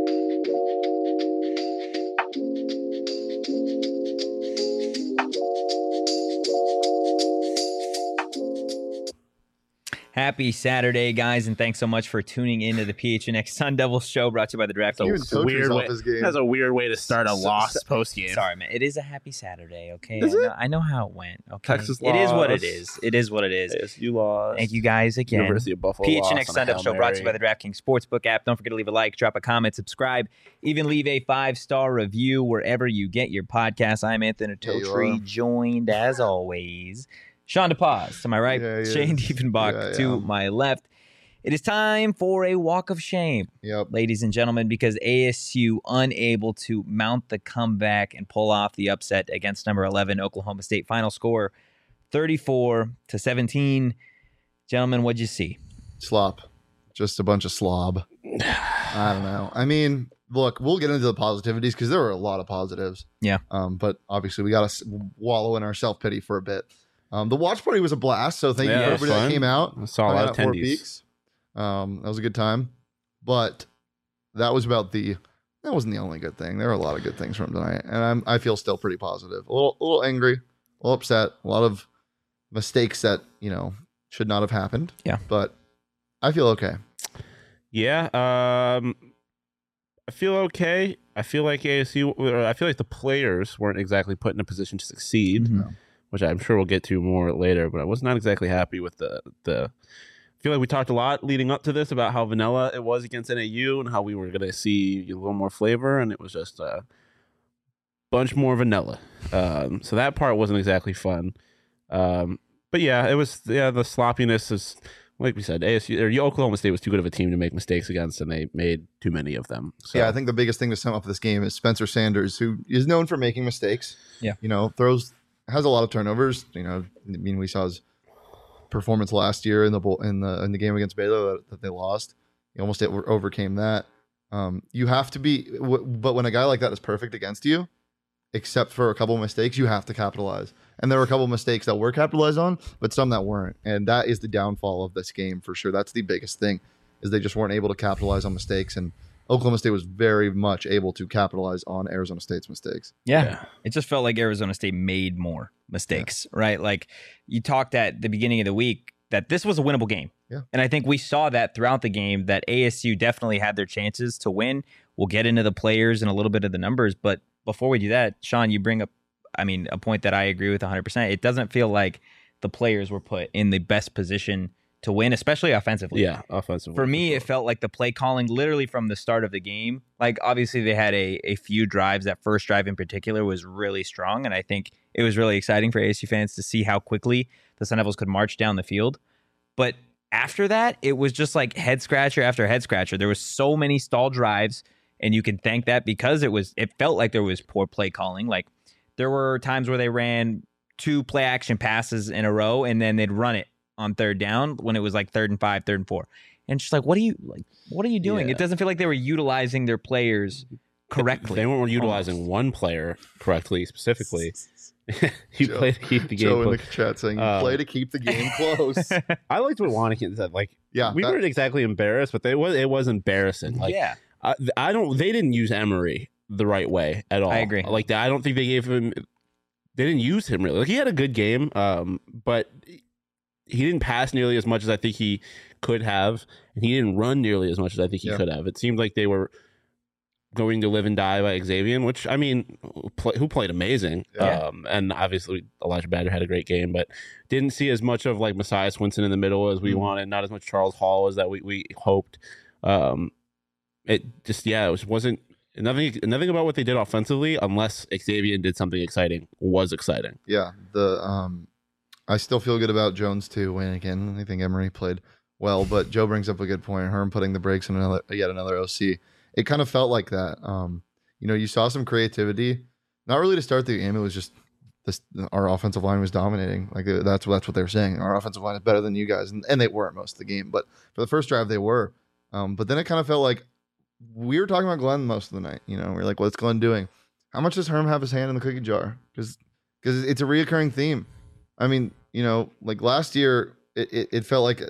Happy Saturday, guys, and thanks so much for tuning into the PHNX Sun Devils show brought to you by the DraftKings. That's a weird way to start a loss post game. Sorry, man. It is a happy Saturday, okay? Is it? I know how it went, okay? Texas It is lost. what it is. It is what it is. ASU lost. Thank you guys again. University of Buffalo PHNX lost Sun Devils show brought to you by the DraftKings Sportsbook app. Don't forget to leave a like, drop a comment, subscribe, even leave a 5-star review wherever you get your podcasts. I'm Anthony Totri, joined as always. Sean DePaz to my right, Shane Diefenbach to my left. It is time for a walk of shame, ladies and gentlemen, because ASU unable to mount the comeback and pull off the upset against number 11 Oklahoma State. Final score 34-17. Gentlemen, what'd you see? Slop. Just a bunch of slob. I don't know. I mean, look, we'll get into the positivities because there were a lot of positives. Yeah. But obviously we got to wallow in our self-pity for a bit. The watch party was a blast, so thank you for everybody that came out. I saw a lot of attendees. That was a good time, but that wasn't the only good thing. There were a lot of good things from tonight, and I feel still pretty positive. A little angry, a little upset, a lot of mistakes that should not have happened. Yeah, but I feel okay. Yeah, I feel okay. I feel like I feel like the players weren't exactly put in a position to succeed. Mm-hmm. Which I'm sure we'll get to more later, but I was not exactly happy with the. I feel like we talked a lot leading up to this about how vanilla it was against NAU and how we were going to see a little more flavor, and it was just a bunch more vanilla. So that part wasn't exactly fun. But yeah, it was the sloppiness is like we said. Oklahoma State was too good of a team to make mistakes against, and they made too many of them. So. Yeah, I think the biggest thing to sum up this game is Spencer Sanders, who is known for making mistakes. Yeah, has a lot of turnovers. We saw his performance last year in the game against Baylor that they lost. He almost overcame that. You have to be, but when a guy like that is perfect against you, except for a couple of mistakes, you have to capitalize. And there were a couple of mistakes that were capitalized on, but some that weren't. And that is the downfall of this game for sure. That's the biggest thing, is they just weren't able to capitalize on mistakes. And Oklahoma State was very much able to capitalize on Arizona State's mistakes. Yeah. It just felt like Arizona State made more mistakes, right? Like you talked at the beginning of the week that this was a winnable game. Yeah. And I think we saw that throughout the game, that ASU definitely had their chances to win. We'll get into the players and a little bit of the numbers. But before we do that, Sean, you bring up, a point that I agree with 100%. It doesn't feel like the players were put in the best position to win, especially offensively. Yeah, offensively. For me, it felt like the play calling literally from the start of the game. Like, obviously, they had a few drives. That first drive in particular was really strong, and I think it was really exciting for ASU fans to see how quickly the Sun Devils could march down the field. But after that, it was just like head scratcher after head scratcher. There was so many stalled drives, and you can thank that because it felt like there was poor play calling. Like, there were times where they ran 2 play action passes in a row, and then they'd run it on third down when it was like 3rd and 5, 3rd and 4. And just like, what are you doing? Yeah. It doesn't feel like they were utilizing their players correctly. They weren't utilizing one player correctly, specifically. He played to keep the game Joe close. In the chat saying, you play to keep the game close. I liked what Wannikin said. Like, we weren't exactly embarrassed, but it was embarrassing. Like, yeah. They didn't use Emery the right way at all. I agree. Like, I don't think they didn't use him really. Like, he had a good game, but he didn't pass nearly as much as I think he could have, and he didn't run nearly as much as I think he could have. It seemed like they were going to live and die by Xavier, which, who played amazing. Yeah. And obviously Elijah Badger had a great game, but didn't see as much of like Messiah Swinson in the middle as we wanted, not as much Charles Hall as that we hoped. It wasn't nothing about what they did offensively, unless Xavier did something exciting, was exciting. Yeah. I still feel good about Jones too. Again, I think Emery played well, but Joe brings up a good point. Herm putting the brakes on yet another OC. It kind of felt like that. You saw some creativity, not really to start the game. It was just our offensive line was dominating. Like that's what they were saying. Our offensive line is better than you guys, and they weren't most of the game. But for the first drive, they were. But then it kind of felt like we were talking about Glenn most of the night. We're like, what's Glenn doing? How much does Herm have his hand in the cookie jar? Because it's a reoccurring theme. Like last year, it felt like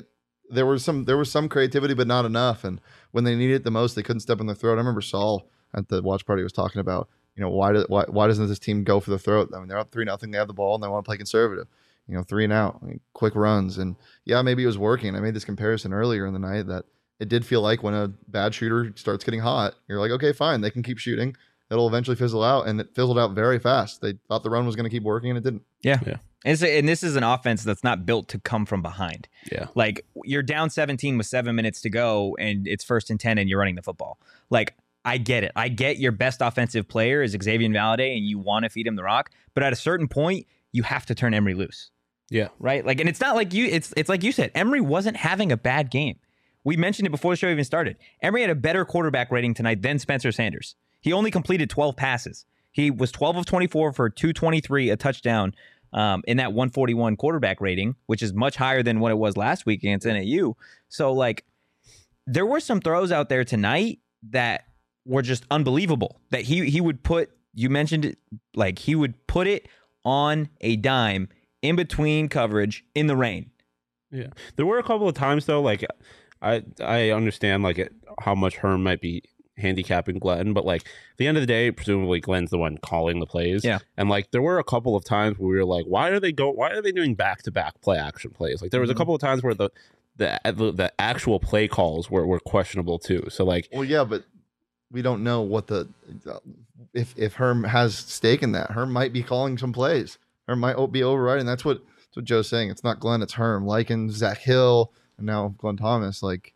there was some creativity, but not enough. And when they needed it the most, they couldn't step in the throat. I remember Saul at the watch party was talking about, why doesn't this team go for the throat? I mean, they're up 3-0, they have the ball, and they want to play conservative. 3 and out, quick runs. And yeah, maybe it was working. I made this comparison earlier in the night that it did feel like when a bad shooter starts getting hot, you're like, okay, fine, they can keep shooting. It'll eventually fizzle out, and it fizzled out very fast. They thought the run was going to keep working, and it didn't. Yeah. And this is an offense that's not built to come from behind. Yeah. Like, you're down 17 with 7 minutes to go, and it's 1st and 10, and you're running the football. Like, I get it. I get your best offensive player is Xavier Valade, and you want to feed him the rock. But at a certain point, you have to turn Emory loose. Yeah. Right? Like, and it's not like it's like you said, Emory wasn't having a bad game. We mentioned it before the show even started. Emory had a better quarterback rating tonight than Spencer Sanders. He only completed 12 passes. He was 12 of 24 for 223, a touchdown in that 141 quarterback rating, which is much higher than what it was last week against NAU. So, like, there were some throws out there tonight that were just unbelievable. That he would put, you mentioned it, like, he would put it on a dime in between coverage in the rain. Yeah. There were a couple of times, though, like, I understand, like, how much Herm might be handicapping Glenn, but, like, at the end of the day, presumably Glenn's the one calling the plays. Yeah. And, like, there were a couple of times where we were like, why are they doing back-to-back play action plays? Like, there was a couple of times where the actual play calls were questionable too. So, like, well, yeah, but we don't know what if Herm has stake in that. Herm might be calling some plays. Herm might be overriding. That's what Joe's saying. It's not Glenn, it's Herm. Likens, Zach Hill, and now Glenn Thomas. Like,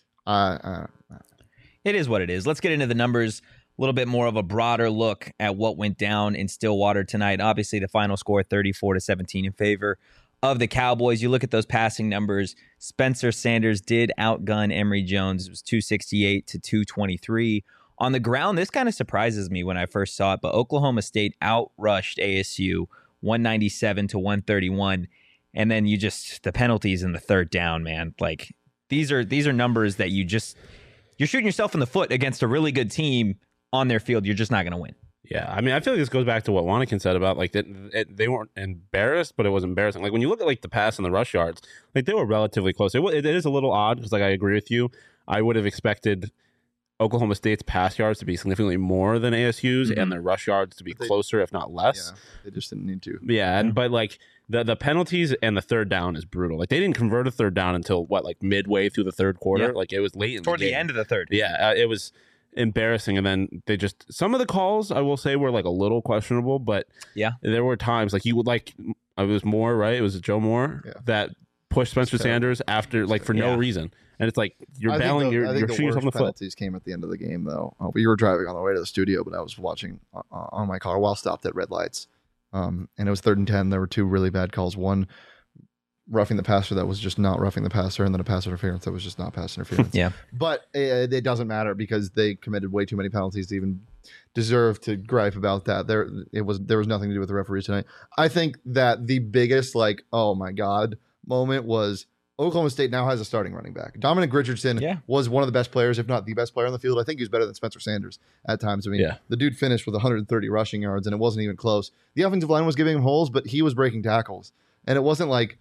it is what it is. Let's get into the numbers. A little bit more of a broader look at what went down in Stillwater tonight. Obviously, the final score 34-17 in favor of the Cowboys. You look at those passing numbers. Spencer Sanders did outgun Emory Jones. It was 268 to 223. On the ground, this kind of surprises me when I first saw it, but Oklahoma State outrushed ASU 197 to 131. And then the penalties in the third down, man. Like, these are numbers that you're shooting yourself in the foot against a really good team on their field. You're just not going to win. Yeah, I mean, I feel like this goes back to what Wannikin said about, like, that they weren't embarrassed, but it was embarrassing. Like, when you look at, like, the pass and the rush yards, like, they were relatively close. It is a little odd because, like, I agree with you. I would have expected Oklahoma State's pass yards to be significantly more than ASU's and their rush yards to be closer, if not less. Yeah, they just didn't need to. Yeah, but, like, the penalties and the third down is brutal. Like, they didn't convert a third down until, like, midway through the third quarter? Yeah. Like, it was late in toward the game. The end of the third. Yeah, it was embarrassing. And then some of the calls, I will say, were, like, a little questionable, but yeah, there were times, like, it was Moore, right? It was Joe Moore that pushed Spencer Sanders after, like, for no reason. And it's like, you're bailing, you're shooting yourself in the foot. Penalties came at the end of the game, though. We were driving on the way to the studio, but I was watching on my car while stopped at red lights. And it was 3rd and 10. There were 2 really bad calls. One, roughing the passer that was just not roughing the passer, and then a pass interference that was just not pass interference. Yeah. But it doesn't matter because they committed way too many penalties to even deserve to gripe about that. There was nothing to do with the referee tonight. I think that the biggest, like, oh my God moment was Oklahoma State now has a starting running back. Dominic Richardson was one of the best players, if not the best player on the field. I think he was better than Spencer Sanders at times. I mean, the dude finished with 130 rushing yards, and it wasn't even close. The offensive line was giving him holes, but he was breaking tackles. And it wasn't like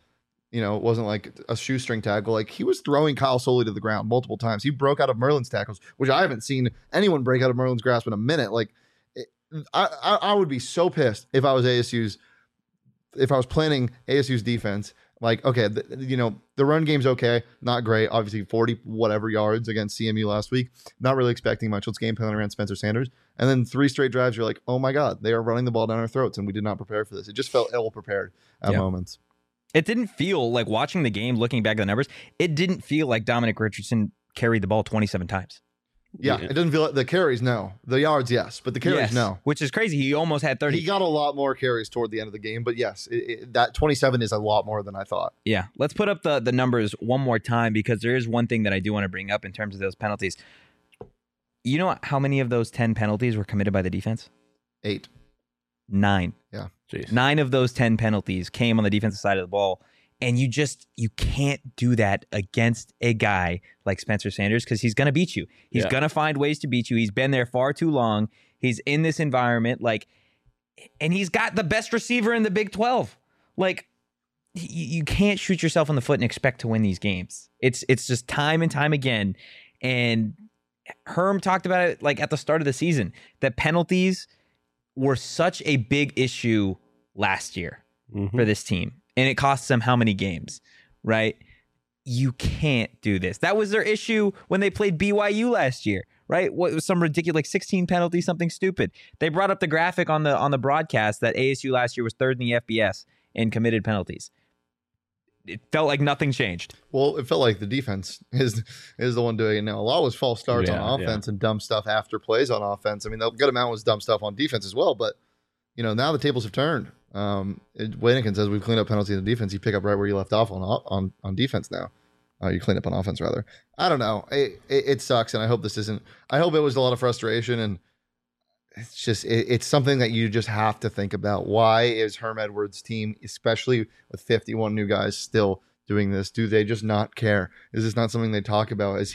a shoestring tackle. Like, he was throwing Kyle Soley to the ground multiple times. He broke out of Merlin's tackles, which I haven't seen anyone break out of Merlin's grasp in a minute. Like, I would be so pissed if I was planning ASU's defense. Like, okay, the run game's okay, not great. Obviously, 40 whatever yards against CMU last week. Not really expecting much. Let's game plan around Spencer Sanders. And then 3 straight drives, you're like, oh my God, they are running the ball down our throats, and we did not prepare for this. It just felt ill prepared at moments. It didn't feel like, watching the game, looking back at the numbers, it didn't feel like Dominic Richardson carried the ball 27 times. Yeah, it doesn't feel like the carries, no. The yards, yes, but the carries, no. Which is crazy. He almost had 30. He got a lot more carries toward the end of the game, but yes, that 27 is a lot more than I thought. Yeah, let's put up the numbers one more time, because there is one thing that I do want to bring up in terms of those penalties. You know how many of those 10 penalties were committed by the defense? 8. 9. Yeah. Jeez. 9 of those 10 penalties came on the defensive side of the ball. And you can't do that against a guy like Spencer Sanders, because he's going to beat you. He's going to find ways to beat you. He's been there far too long. He's in this environment, and he's got the best receiver in the Big 12. Like, you can't shoot yourself in the foot and expect to win these games. It's just time and time again. And Herm talked about it like at the start of the season, that penalties were such a big issue last year for this team. And it cost them how many games, right? You can't do this. That was their issue when they played BYU last year, right? What was some ridiculous, like 16 penalties, something stupid. They brought up the graphic on the broadcast that ASU last year was third in the FBS in committed penalties. It felt like nothing changed. Well, it felt like the defense is the one doing it now. A lot was false starts on offense and dumb stuff after plays on offense. I mean, the good amount was dumb stuff on defense as well. But, now the tables have turned. Waynigan says we've cleaned up penalties in defense. You pick up right where you left off on defense now. You clean up on offense, rather. I don't know. It sucks, and I hope this isn't. I hope it was a lot of frustration, and it's just it's something that you just have to think about. Why is Herm Edwards' team, especially with 51 new guys, still doing this? Do they just not care? Is this not something they talk about? Is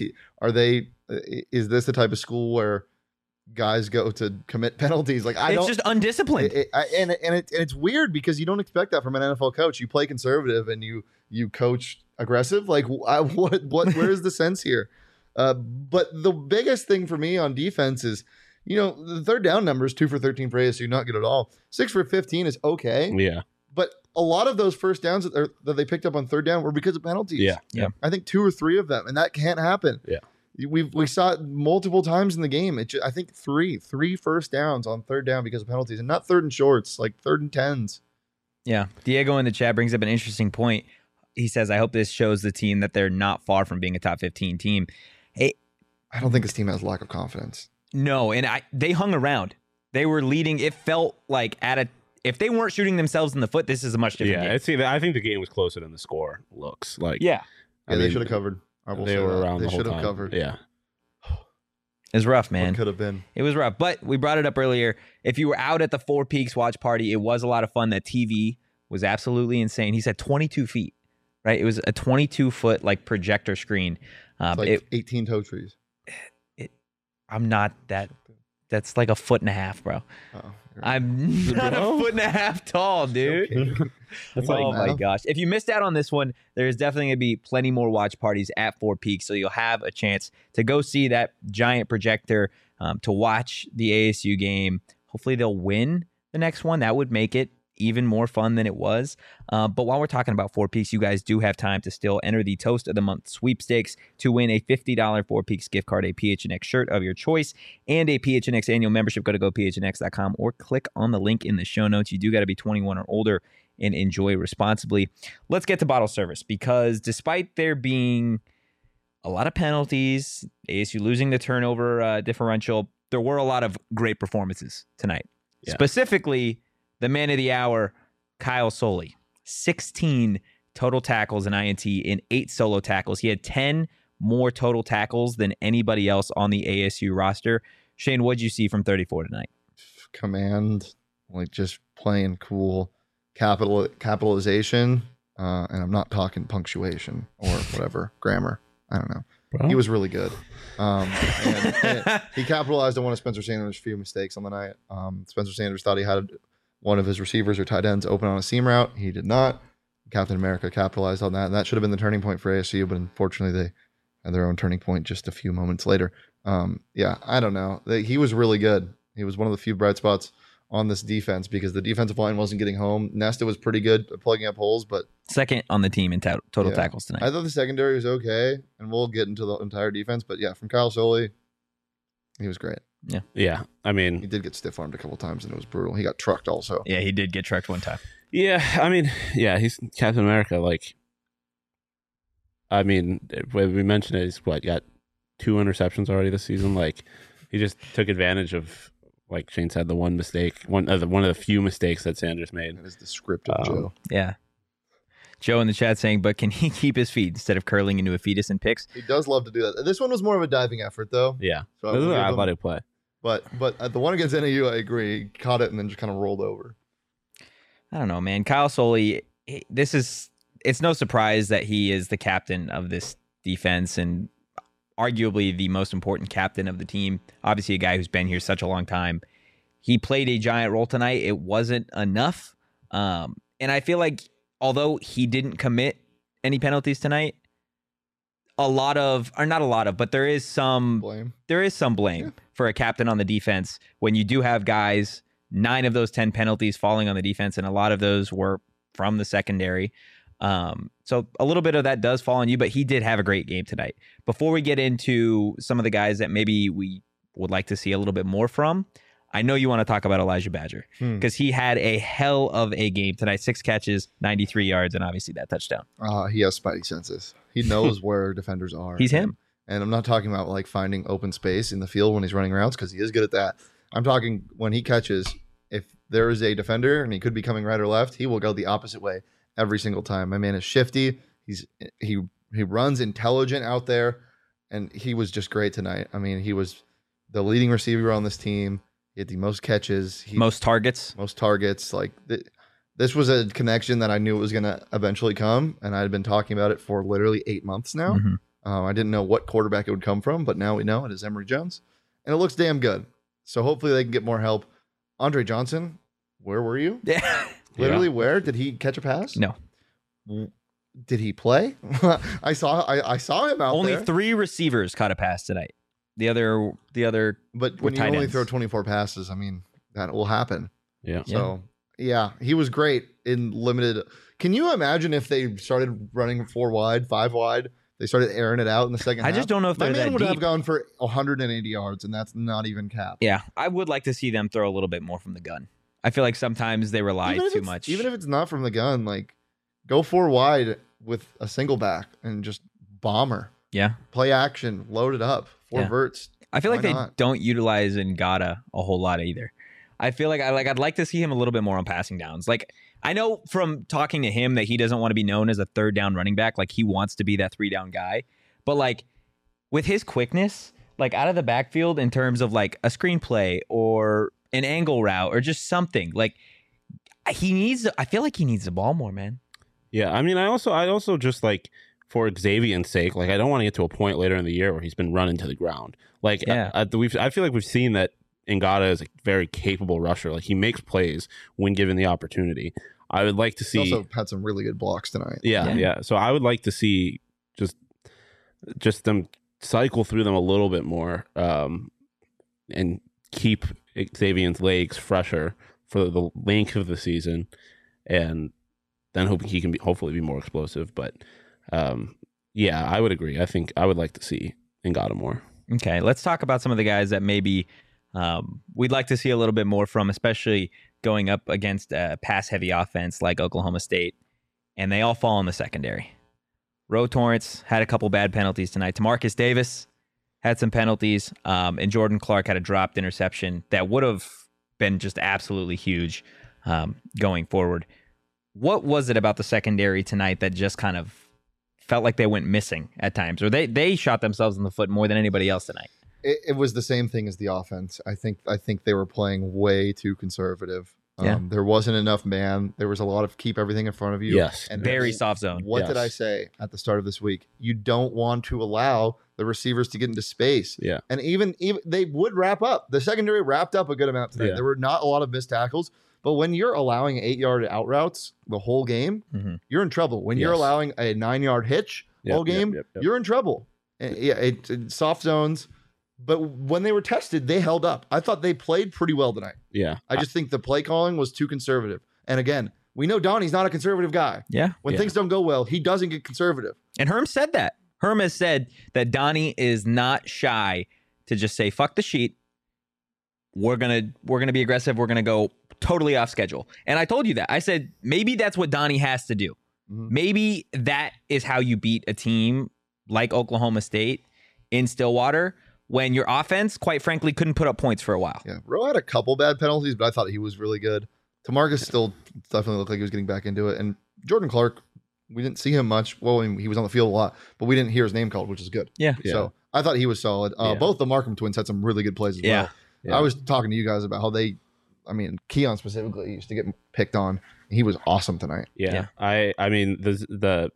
this the type of school where guys go to commit penalties? Like it's just undisciplined. And it's weird because you don't expect that from an NFL coach. You play conservative and you coach aggressive. Like where is the sense here? But the biggest thing for me on defense is, the third down numbers, 2 for 13 for ASU, not good at all. 6 for 15 is okay. Yeah. But a lot of those first downs that they picked up on third down were because of penalties. Yeah. I think 2 or 3 of them, and that can't happen. Yeah. We saw it multiple times in the game. I think three first downs on third down because of penalties, and not third and shorts, like third and 10s. Yeah. Diego in the chat brings up an interesting point. He says, I hope this shows the team that they're not far from being a top 15 team. Hey, I don't think this team has lack of confidence. No, and they hung around. They were leading. It felt like if they weren't shooting themselves in the foot, this is a much different game. I think the game was closer than the score looks like. Yeah. They should have covered. They were around the whole time. They should have covered. Yeah. It was rough, man. What could have been. It was rough. But we brought it up earlier. If you were out at the Four Peaks watch party, it was a lot of fun. That TV was absolutely insane. He said 22 feet, right? It was a 22-foot like projector screen. It's like 18 toe trees. I'm not that. That's like a foot and a half, bro. Oh, I'm not a foot and a half tall, dude. That's oh my gosh. If you missed out on this one, there's definitely going to be plenty more watch parties at Four Peaks. So you'll have a chance to go see that giant projector, to watch the ASU game. Hopefully they'll win the next one. That would make it even more fun than it was. But while we're talking about Four Peaks, you guys do have time to still enter the Toast of the Month sweepstakes to win a $50 Four Peaks gift card, a PHNX shirt of your choice, and a PHNX annual membership. Go to gophnx.com or click on the link in the show notes. You do got to be 21 or older and enjoy responsibly. Let's get to bottle service, because despite there being a lot of penalties, ASU losing the turnover differential, there were a lot of great performances tonight. Yeah. Specifically, the man of the hour, Kyle Soelle. 16 total tackles in INT and 8 solo tackles. He had 10 more total tackles than anybody else on the ASU roster. Shane, what'd you see from 34 tonight? Command, like just playing cool, capitalization, and I'm not talking punctuation or whatever, grammar. I don't know. Bro. He was really good. And he capitalized on one of Spencer Sanders' few mistakes on the night. Spencer Sanders thought he had one of his receivers or tight ends open on a seam route. He did not. Captain America capitalized on that. And that should have been the turning point for ASU, but unfortunately they had their own turning point just a few moments later. I don't know. He was really good. He was one of the few bright spots on this defense because the defensive line wasn't getting home. Nesta was pretty good at plugging up holes, but second on the team in total tackles tonight. I thought the secondary was okay, and we'll get into the entire defense. But yeah, from Kyle Soelle, he was great. Yeah. I mean, he did get stiff armed a couple times, and it was brutal. He got trucked also. Yeah, he did get trucked one time. Yeah, I mean, yeah, he's Captain America. Like, I mean, when we mentioned it, he's got 2 interceptions already this season. Like, he just took advantage of, like Shane said, the one mistake, one of the few mistakes that Sanders made. That is the script of Joe. Yeah. Joe in the chat saying, but can he keep his feet instead of curling into a fetus and picks? He does love to do that. This one was more of a diving effort, though. Yeah. So this is an athletic play. But at the one against NAU, I agree. He caught it and then just kind of rolled over. I don't know, man. Kyle Soelle, it's no surprise that he is the captain of this defense and arguably the most important captain of the team. Obviously a guy who's been here such a long time. He played a giant role tonight. It wasn't enough. And I feel like although he didn't commit any penalties tonight, but there is some Blame. blame for a captain on the defense when you do have guys, 9 of those 10 penalties falling on the defense, and a lot of those were from the secondary. So a little bit of that does fall on you, but he did have a great game tonight. Before we get into some of the guys that maybe we would like to see a little bit more from, I know you want to talk about Elijah Badger because he had a hell of a game tonight. 6 catches, 93 yards, and obviously that touchdown. He has spidey senses. He knows where defenders are. He's him. And I'm not talking about like finding open space in the field when he's running routes because he is good at that. I'm talking when he catches, if there is a defender and he could be coming right or left, he will go the opposite way every single time. My man is shifty. He runs intelligent out there, and he was just great tonight. I mean, he was the leading receiver on this team. He had the most catches. Most targets. Like this was a connection that I knew it was going to eventually come, and I had been talking about it for literally 8 months now. Mm-hmm. I didn't know what quarterback it would come from, but now we know it is Emory Jones, and it looks damn good. So hopefully they can get more help. Andre Johnson, where were you? Yeah. Literally, where did he catch a pass? No. Did he play? I saw him out Only there. 3 receivers caught a pass tonight. The other. But when you tight only ends. throw 24 passes, I mean, that will happen. Yeah. So, yeah, he was great in limited. Can you imagine if they started running 4 wide, 5 wide? They started airing it out in the second half. I just don't know if My they're man that would deep. have gone for 180 yards, and that's not even cap. Yeah, I would like to see them throw a little bit more from the gun. I feel like sometimes they rely too much. Even if it's not from the gun, like go 4 wide with a single back and just bomber. Yeah. Play action, load it up, 4 verts. I feel like Why they not? don't utilize Ngata a whole lot either. I feel like I'd like to see him a little bit more on passing downs. Like I know from talking to him that he doesn't want to be known as a 3rd down running back. Like he wants to be that 3 down guy. But like with his quickness, like out of the backfield in terms of like a screenplay or an angle route or just something, like I feel like he needs the ball more, man. Yeah, I mean, I also just like for Xavier's sake, like I don't want to get to a point later in the year where he's been running to the ground. Like, I feel like we've seen that Ngata is a very capable rusher. Like he makes plays when given the opportunity. I would like to see. He also had some really good blocks tonight. Yeah. So I would like to see just them cycle through them a little bit more, and keep Xavier's legs fresher for the length of the season, and then hoping he can hopefully be more explosive. But yeah, I would agree. I think I would like to see Ngata more. Okay, let's talk about some of the guys that maybe we'd like to see a little bit more from, especially going up against a pass-heavy offense like Oklahoma State, and they all fall in the secondary. Ro Torrance had a couple bad penalties tonight. Tamarcus Davis had some penalties, and Jordan Clark had a dropped interception that would have been just absolutely huge going forward. What was it about the secondary tonight that just kind of felt like they went missing at times, or they shot themselves in the foot more than anybody else tonight? It was the same thing as the offense. I think they were playing way too conservative. There wasn't enough man. There was a lot of keep everything in front of you. Yes. And Very soft zone. What did I say at the start of this week? You don't want to allow the receivers to get into space. Yeah. And even they would wrap up. The secondary wrapped up a good amount tonight. Yeah. There were not a lot of missed tackles. But when you're allowing 8-yard out routes the whole game, you're in trouble. When you're allowing a 9-yard hitch all game, you're in trouble. And it's soft zones. But when they were tested, they held up. I thought they played pretty well tonight. Yeah. I just think the play calling was too conservative. And again, we know Donnie's not a conservative guy. Yeah. When things don't go well, he doesn't get conservative. And Herm said that. Herm has said that Donnie is not shy to just say, fuck the sheet. We're gonna be aggressive. We're gonna go totally off schedule. And I told you that. I said maybe that's what Donnie has to do. Maybe that is how you beat a team like Oklahoma State in Stillwater, when your offense, quite frankly, couldn't put up points for a while. Yeah, Rowe had a couple bad penalties, but I thought he was really good. Tamarcus still definitely looked like he was getting back into it. And Jordan Clark, we didn't see him much. Well, I mean, he was on the field a lot, but we didn't hear his name called, which is good. Yeah. So I thought he was solid. Both the Markham twins had some really good plays as well. I was talking to you guys about how Keon specifically used to get picked on. He was awesome tonight. Yeah. I mean, the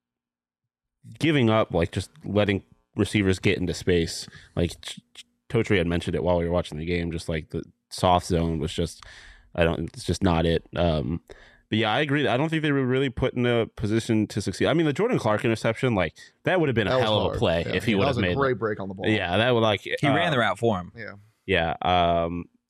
giving up, like just letting receivers get into space, like Totri had mentioned it while we were watching the game, just like the soft zone was just, it's just not it. But yeah, I agree. I don't think they were really put in a position to succeed. I mean, the Jordan Clark interception, like that would have been a That was hell of a hard. play if he would have that was made a great break on the ball. Yeah, that would like He ran the route for him. Yeah. Yeah.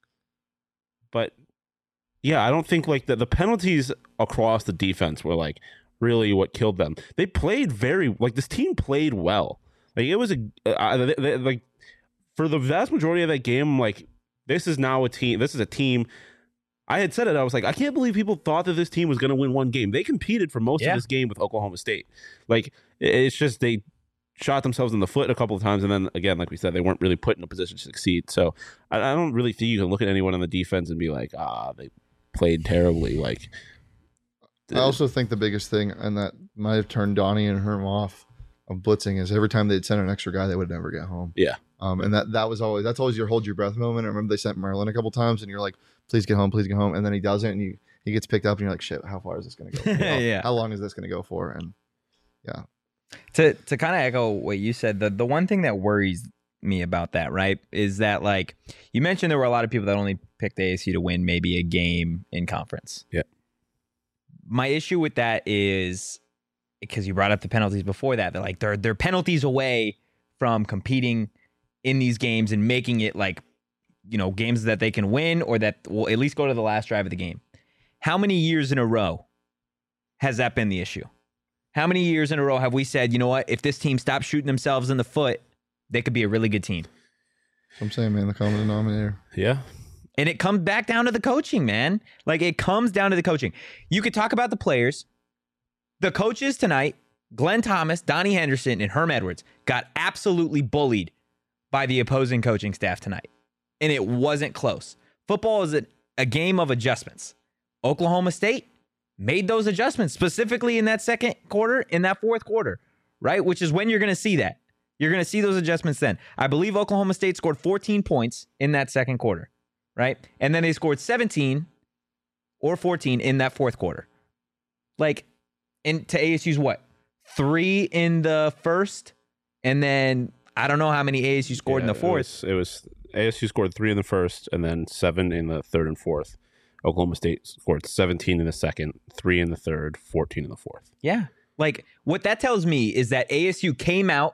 But yeah, I don't think like the penalties across the defense were like really what killed them. They played this team played well. Like it was like for the vast majority of that game, like this is a team. I had said it. I was like, I can't believe people thought that this team was going to win one game. They competed for most of this game with Oklahoma State. Like, it's just they shot themselves in the foot a couple of times. And then, again, like we said, they weren't really put in a position to succeed. So I don't really think you can look at anyone on the defense and be like, they played terribly. Like, I also think the biggest thing, and that might have turned Donnie and Herm off of blitzing, is every time they'd send an extra guy, they would never get home. Yeah. And that's always your hold your breath moment. I remember they sent Merlin a couple times, and you're like, please get home, and then he doesn't, and he gets picked up, and you're like, shit, how far is this going to go? Yeah. How long is this going to go for? And yeah. To kind of echo what you said, the one thing that worries me about that, right, is that like you mentioned there were a lot of people that only picked ASU to win maybe a game in conference. Yeah. My issue with that is because you brought up the penalties before that. They're like they're penalties away from competing in these games and making it like, games that they can win or that will at least go to the last drive of the game. How many years in a row has that been the issue? How many years in a row have we said, you know what, if this team stops shooting themselves in the foot, they could be a really good team? I'm saying, man, the common denominator. Yeah. And it comes back down to the coaching, man. Like, it comes down to the coaching. You could talk about the players. The coaches tonight, Glenn Thomas, Donnie Henderson, and Herm Edwards, got absolutely bullied by the opposing coaching staff tonight. And it wasn't close. Football is a game of adjustments. Oklahoma State made those adjustments, specifically in that second quarter, in that fourth quarter, right? Which is when you're going to see that. You're going to see those adjustments then. I believe Oklahoma State scored 14 points in that second quarter, right? And then they scored 17 or 14 in that fourth quarter. Like, and to ASU's what? 3 in the first, and then I don't know how many ASU scored in the fourth. It was ASU scored 3 in the first and then 7 in the third and fourth. Oklahoma State scored 17 in the second, 3 in the third, 14 in the fourth. Yeah. Like, what that tells me is that ASU came out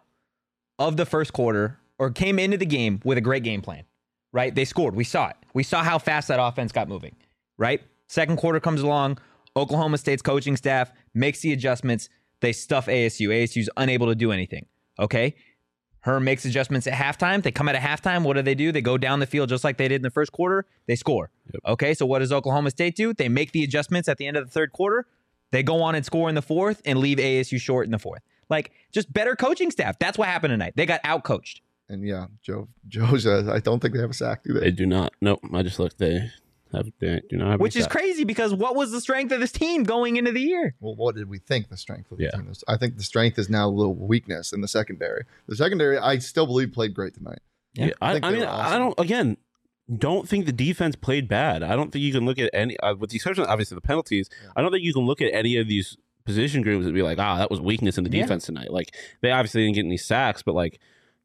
of the first quarter or came into the game with a great game plan, right? They scored. We saw it. We saw how fast that offense got moving, right? Second quarter comes along. Oklahoma State's coaching staff makes the adjustments. They stuff ASU. ASU's unable to do anything, okay? Herm makes adjustments at halftime. They come out of halftime. What do? They go down the field just like they did in the first quarter. They score. Yep. Okay, so what does Oklahoma State do? They make the adjustments at the end of the third quarter. They go on and score in the fourth and leave ASU short in the fourth. Like, just better coaching staff. That's what happened tonight. They got outcoached. And yeah, Joe says, I don't think they have a sack, do they? They do not. Nope. I just looked. They do not have. Which is crazy because what was the strength of this team going into the year? Well, what did we think the strength of the team was? I think the strength is now a little weakness in the secondary. The secondary, I still believe, played great tonight. Yeah, I mean, awesome. Don't think the defense played bad. I don't think you can look at any, with the exception of obviously the penalties, I don't think you can look at any of these position groups and be like, that was weakness in the defense tonight. Like, they obviously didn't get any sacks, but like,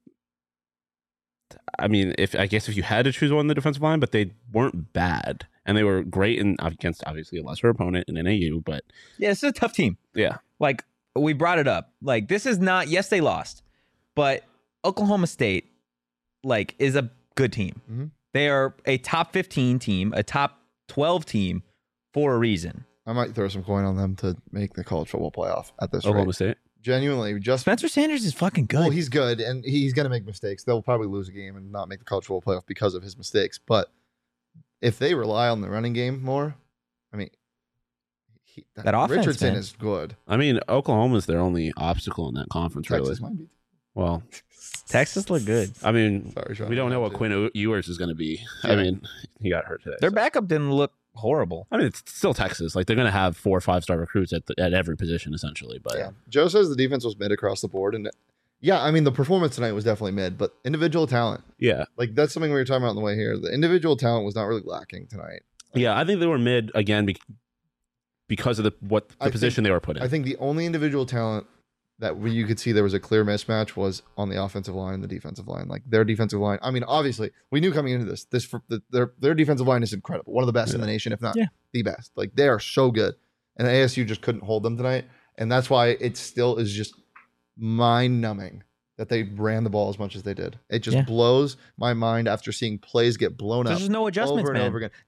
I mean, if you had to choose one in the defensive line, but they weren't bad. And they were great against obviously a lesser opponent in NAU, but yeah, it's a tough team. Yeah. Like, we brought it up. Like, this is not, yes, they lost, but Oklahoma State, like, is a good team. Mm-hmm. They are a top 15 team, a top 12 team for a reason. I might throw some coin on them to make the college football playoff at this Oklahoma rate. State. Genuinely, just Spencer Sanders is fucking good. Well, he's good, and he's going to make mistakes. They'll probably lose a game and not make the college football playoff because of his mistakes. But if they rely on the running game more, I mean, that offense, Richardson man, is good. I mean, Oklahoma's their only obstacle in that conference, Texas really. might be. Well, Texas looked good. I mean, Sorry, Sean, we don't know what Quinn Ewers is going to be. Yeah. I mean, he got hurt today. Their backup didn't look horrible. I mean, it's still Texas. Like, they're going to have 4 or 5 star recruits at every position, essentially. But yeah, Joe says the defense was mid across the board, and yeah, I mean, the performance tonight was definitely mid, but individual talent, yeah, like that's something we were talking about on the way here. The individual talent was not really lacking tonight. yeah, I think they were mid again because of the position they were put in. I think the only individual talent that you could see there was a clear mismatch was on the offensive line and the defensive line. Like, their defensive line, I mean, obviously we knew coming into their defensive line is incredible, one of the best in the nation, if not the best. Like, they are so good. and ASU just couldn't hold them tonight. And that's why it still is just mind-numbing that they ran the ball as much as they did. It just blows my mind after seeing plays get blown up. There's no adjustments, over and over again.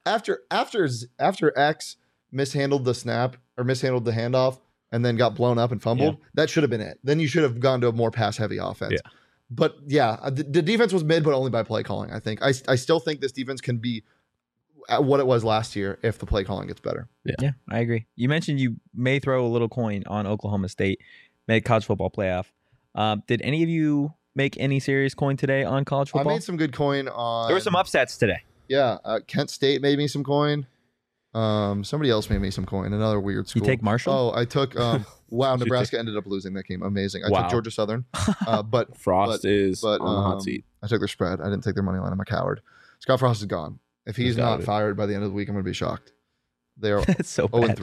After X mishandled the snap or mishandled the handoff and then got blown up and fumbled, that should have been it. Then you should have gone to a more pass-heavy offense. Yeah. But the defense was mid, but only by play calling, I think. I still think this defense can be at what it was last year if the play calling gets better. Yeah, I agree. You mentioned you may throw a little coin on Oklahoma State, make college football playoff. Did any of you make any serious coin today on college football? I made some good coin on. There were some upsets today. Yeah, Kent State made me some coin. Somebody else made me some coin. Another weird school. You take Marshall? Oh, I took. Wow, Nebraska ended up losing that game. Amazing. I took Georgia Southern. But Frost is on the hot seat. I took their spread. I didn't take their money line. I'm a coward. Scott Frost is gone. If he's not fired by the end of the week, I'm going to be shocked. They are It's so bad.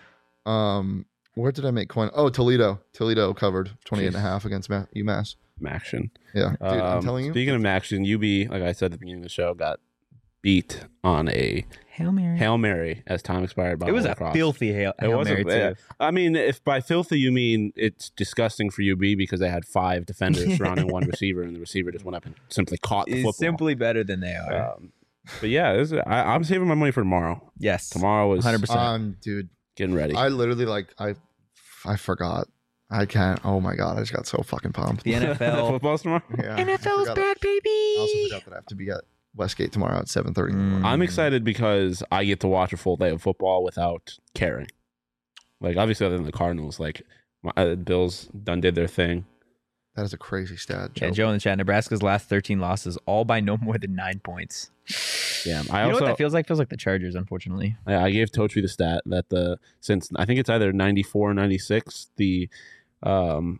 0-3. Where did I make coin? Oh, Toledo. Toledo covered 28.5 against UMass. Maction. Yeah, dude, I'm telling you. Speaking of Maction, UB, like I said at the beginning of the show, got beat on a Hail Mary as time expired by It was Holy a Cross. filthy Hail Mary, too. I mean, if by filthy you mean it's disgusting for UB because they had 5 defenders surrounding one receiver and the receiver just went up and simply caught the football. It's simply better than they are. But yeah, I'm saving my money for tomorrow. Yes. Tomorrow is 100%. Dude, getting ready. I literally I forgot. I can't. Oh my god, I just got so fucking pumped. The NFL. Football's tomorrow? Yeah, NFL's back, baby. I also forgot that I have to be at Westgate tomorrow at 7:30 in the morning. I'm excited because I get to watch a full day of football without caring. Like, obviously, other than the Cardinals, like, Bills done did their thing. That is a crazy stat. Yeah, Joe in the chat. Nebraska's last 13 losses, all by no more than 9 points. Yeah, You know what that feels like? Feels like the Chargers, unfortunately. I gave Totri the stat that since I think it's either 94 or 96, the Notre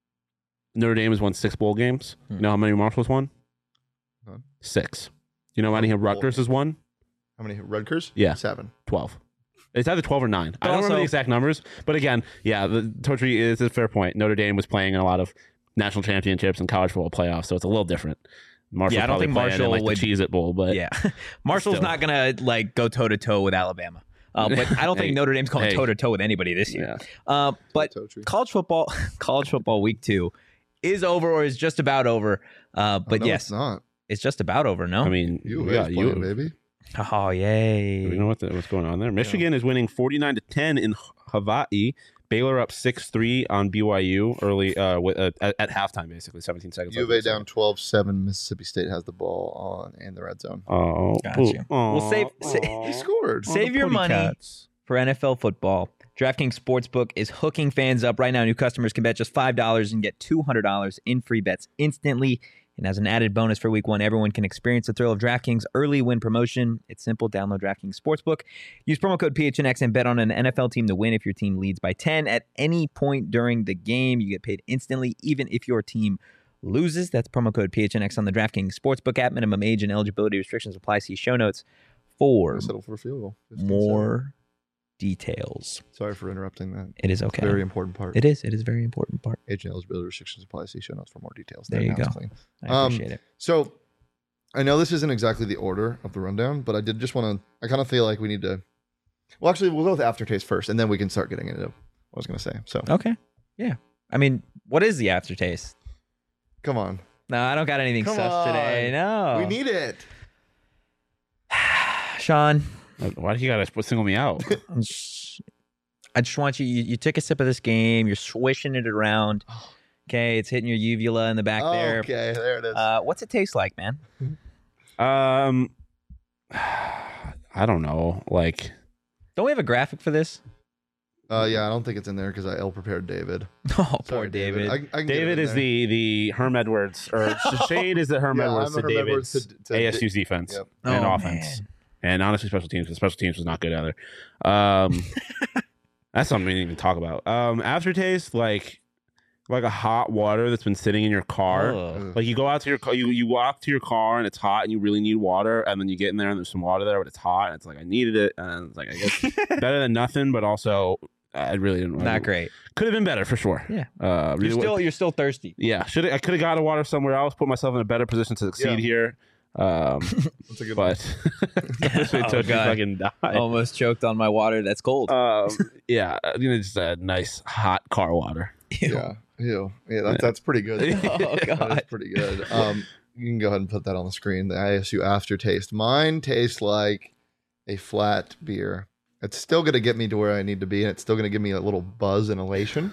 Dame has won 6 bowl games. You know how many Marshall's won? None. 6. You know how many Rutgers has won? How many Rutgers? Yeah. 7. 12. It's either 12 or 9. I don't also- remember the exact numbers, but again, yeah, the Totri is a fair point. Notre Dame was playing in a lot of national championships and college football playoffs, so it's a little different. Marshall Yeah, I don't think Marshall like would- the Cheez-It Bowl, but Yeah. Marshall's Still. not going to like go toe to toe with Alabama. But I don't think Notre Dame's going toe to toe with anybody this year. yeah. But Totri. college football week 2 is over or is just about over. But No, yes, it's not. it's just about over, no? I mean, You yeah, is playing, baby. Oh, yay. Do we know what's going on there? Michigan is winning 49-10 in Hawaii. Baylor up 6-3 on BYU early at halftime, basically 17 seconds. U of A down 12-7. Mississippi State has the ball on in the red zone. Oh, Gotcha. Well, He scored. Save your money for NFL football. DraftKings Sportsbook is hooking fans up right now. New customers can bet just $5 and get $200 in free bets instantly. And as an added bonus for week 1, everyone can experience the thrill of DraftKings early win promotion. It's simple. Download DraftKings Sportsbook. Use promo code PHNX and bet on an NFL team to win. If your team leads by 10 at any point during the game, you get paid instantly, even if your team loses. That's promo code PHNX on the DraftKings Sportsbook app. Minimum age and eligibility restrictions apply. See show notes for Settle for a field goal. 15-7. more details. Sorry for interrupting that. It is okay. Very important part. It is. It is a very important part. Age and eligibility restrictions apply. See show notes for more details. There you Now it's go. clean. I appreciate it. So I know this isn't exactly the order of the rundown, but I did just want to. I kind of feel like we need to. Well, actually, we'll go with aftertaste first, and then we can start getting into what I was going to say. So Okay. Yeah. I mean, what is the aftertaste? come on, No, I don't got anything Come sus today. on. No. we need it. Sean, Why do you gotta single me out? I just want you took a sip of this game. You're swishing it around. Okay. It's hitting your uvula in the back there. Okay, there it is. What's it taste like, man? I don't know. Like, Don't we have a graphic for this? Yeah, I don't think it's in there because I ill prepared David. Oh, poor Sorry, David. I can get it David in is there. the Herm Edwards, or Shade is the Herm Yeah, Edwards I'm to a Herm David's Edwards to ASU's defense Yep. and Oh, offense. man. And honestly, special teams. Because special teams was not good either. That's something we didn't even talk about. Aftertaste, like a hot water that's been sitting in your car. Ugh. Like you go out to your car, you walk to your car and it's hot and you really need water, and then you get in there and there's some water there, but it's hot and it's like I needed it, and it's like I guess better than nothing, but also I really didn't. Not great. Could have been better for sure. Yeah. Really You're still thirsty. yeah. I could have got a water somewhere else, put myself in a better position to succeed Yeah. here. That's a good one. But especially Oh, Toshi God. fucking died. Almost choked on my water. That's cold. Yeah, just a nice hot car water. Ew. Yeah. Ew. Yeah, that's pretty good. Oh, That God. is pretty good. You can go ahead and put that on the screen. The ISU aftertaste. Mine tastes like a flat beer. It's still going to get me to where I need to be, and it's still going to give me a little buzz and elation,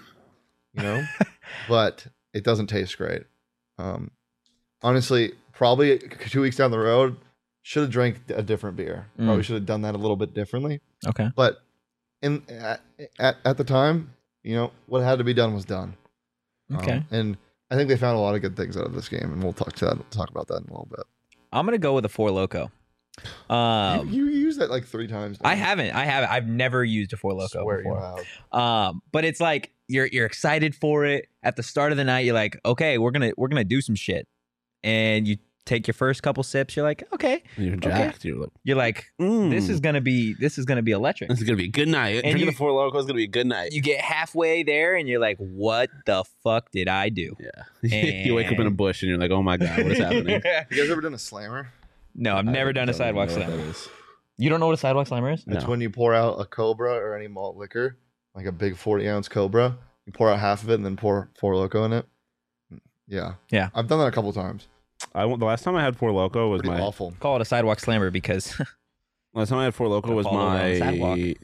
but it doesn't taste great. Honestly, probably 2 weeks down the road, should have drank a different beer. Probably should have done that a little bit differently. Okay. But at the time, what had to be done was done. Okay. And I think they found a lot of good things out of this game, and we'll talk about that in a little bit. I'm gonna go with a Four Loco. You used that like 3 times. I haven't. I've never used a Four Loco Swear before. you have. But it's like you're excited for it. At the start of the night, you're like, okay, we're gonna do some shit, and you take your first couple sips. You're like, okay, You're jacked. You're like, this is gonna be electric. This is gonna be a good night. And Drinking the Four Loko is gonna be a good night. You get halfway there, and you're like, what the fuck did I do? Yeah. You wake up in a bush and you're like, oh my god, what is happening? You guys ever done a slammer? No, I've never done a don't even sidewalk know what slammer. that is. You don't know what a sidewalk slammer is? It's No. when you pour out a Cobra or any malt liquor, like a big 40-ounce Cobra. You pour out half of it and then pour Four Loko in it. Yeah. Yeah. I've done that a couple times. The last time I had Four Loko was Pretty my awful. Call it a sidewalk slammer because last time I had Four Loko To was follow it on the sidewalk. my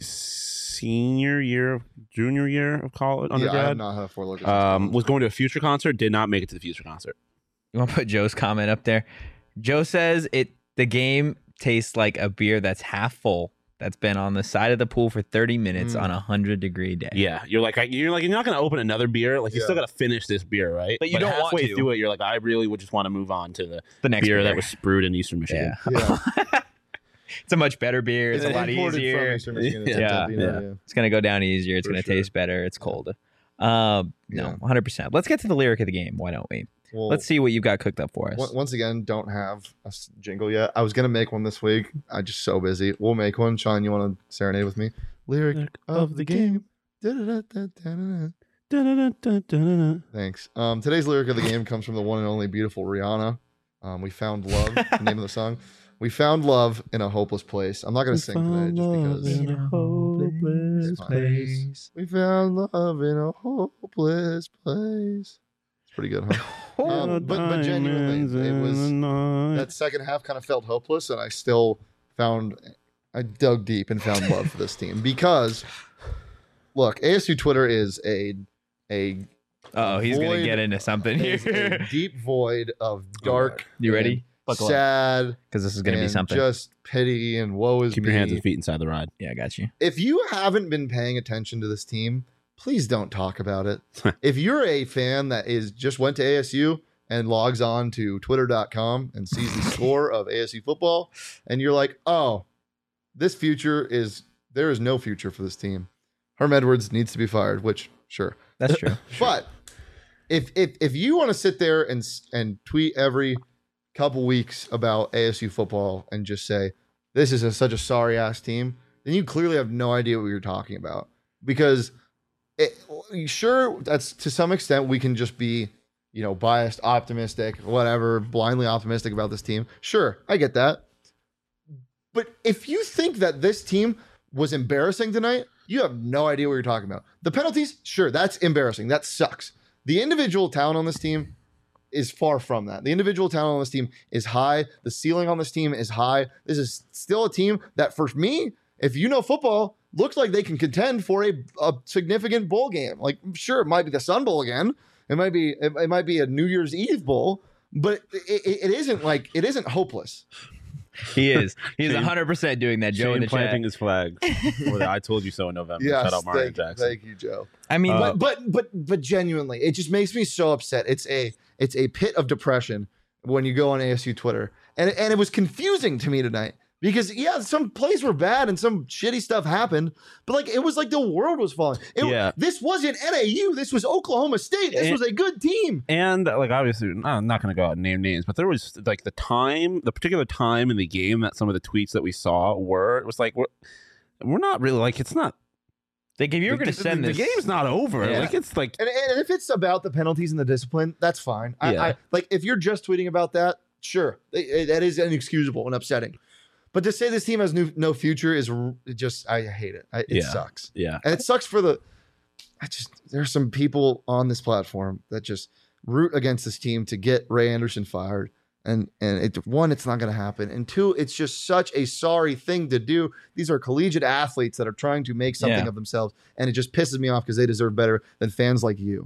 junior year of college Yeah, I have undergrad. not had a Four Loko. since college. Was going to a Future concert. Did not make it to the Future concert. you want to put Joe's comment up there. Joe says the game tastes like a beer that's half full that's been on the side of the pool for 30 minutes on a 100-degree day. Yeah, you're not going to open another beer. Like you still got to finish this beer, right? But you don't want halfway to. through it, you're like, I really would just want to move on to The next beer that was brewed in Eastern Michigan. Yeah. Yeah. It's a much better beer. It's a lot Imported from easier. Eastern Michigan. Yeah. It's Yeah. yeah. It's going to go down easier. It's For going to sure. taste better. It's cold. No, Yeah. 100%. Let's get to the lyric of the game. Why don't we? Well, Let's see what you've got cooked up for us. Once again, don't have a jingle yet. I was gonna make one this week. I'm just so busy. We'll make one. Sean, you want to serenade with me? Lyric of the game. Da-da-da-da-da-da. Thanks. Today's lyric of the game comes from the one and only beautiful Rihanna. We found love. The name of the song. We found love in a hopeless place. I'm not gonna sing today just because. In a hopeless place. We found love in a hopeless place. It's pretty good, huh? But genuinely, it was that second half kind of felt hopeless, and I dug deep and found love for this team because, look, ASU Twitter is a Oh, he's going to void- get into something is here. a deep void of dark. You ready? and Buckle up. sad, Because this is going to be and something. just pity and woe is Keep me. your hands and feet inside the ride. Yeah, I got you. If you haven't been paying attention to this team, please don't talk about it. If you're a fan that just went to ASU and logs on to twitter.com and sees the score of ASU football, and you're like, oh, there is no future for this team. Herm Edwards needs to be fired, which sure. That's true. But if you want to sit there and tweet every couple weeks about ASU football and just say this is such a sorry ass team, then you clearly have no idea what you're talking about. Because sure, that's to some extent we can just be biased, optimistic, whatever, blindly optimistic about this team. Sure, I get that. But if you think that this team was embarrassing tonight, you have no idea what you're talking about. The penalties, sure, that's embarrassing. That sucks. The individual talent on this team is far from that. The individual talent on this team is high. The ceiling on this team is high. This is still a team that, for me, if you know football, looks like they can contend for a significant bowl game. Like, sure, it might be the Sun Bowl again. It might be a New Year's Eve bowl, but it isn't hopeless. He is. He's Shane- 100% doing that. Joe in Shane the planting chat. his flag. For the I told you so in November. Yes, Shout out Mario Jackson. thank you, Joe. I mean, But genuinely, it just makes me so upset. It's a pit of depression when you go on ASU Twitter, and it was confusing to me tonight because some plays were bad and some shitty stuff happened, but it was like the world was falling. This wasn't NAU. This was Oklahoma State. This was a good team. And obviously, I'm not going to go out and name names, but there was the particular time in the game that some of the tweets that we saw it was like, we're not really it's not. if you were going to send this, the game's not over. Yeah. It's like, And if it's about the penalties and the discipline, that's fine. Yeah. I if you're just tweeting about that, Sure, that is inexcusable and upsetting. But to say this team has no future is just, I hate it. It sucks. Yeah. And it sucks for there's some people on this platform that just root against this team to get Ray Anderson fired. And one, it's not going to happen. And two, it's just such a sorry thing to do. These are collegiate athletes that are trying to make something of themselves. And it just pisses me off because they deserve better than fans like you.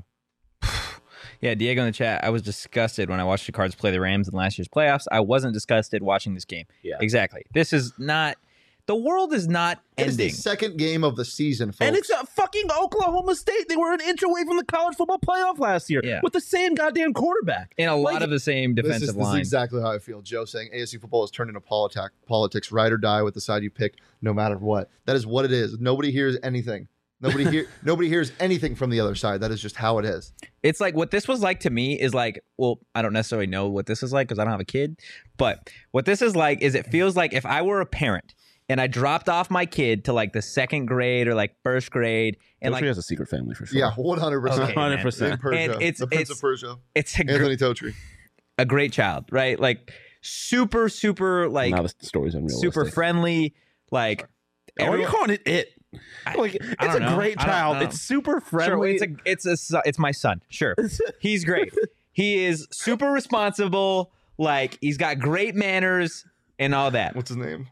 Yeah, Diego in the chat, I was disgusted when I watched the Cards play the Rams in last year's playoffs. I wasn't disgusted watching this game. Yeah. Exactly. This is not... The world is not It is ending. the second game of the season, folks. And it's a fucking Oklahoma State. They were an inch away from the college football playoff last year with the same goddamn quarterback. And a lot of the same defensive line. This is exactly how I feel. Joe saying ASU football has turned into politics, ride or die with the side you pick, no matter what. That is what it is. Nobody hears anything. Nobody hears anything from the other side. That is just how it is. It's like what this was like to me is like, well, I don't necessarily know what this is like because I don't have a kid. But what this is like is it feels like if I were a parent and I dropped off my kid to like the second grade or like first grade, and Totri like has a secret family for sure. Yeah, 100%. Okay, man. 100%. And it's the Prince of Persia. It's Anthony Totri. a great child, right? Like super like Now the story's unrealistic. super friendly, like Why are you calling it? Like it's don't a know. great I don't child. know. It's super Sure, friendly. it's my son. Sure, he's great. He is super responsible. Like he's got great manners and all that. What's his name?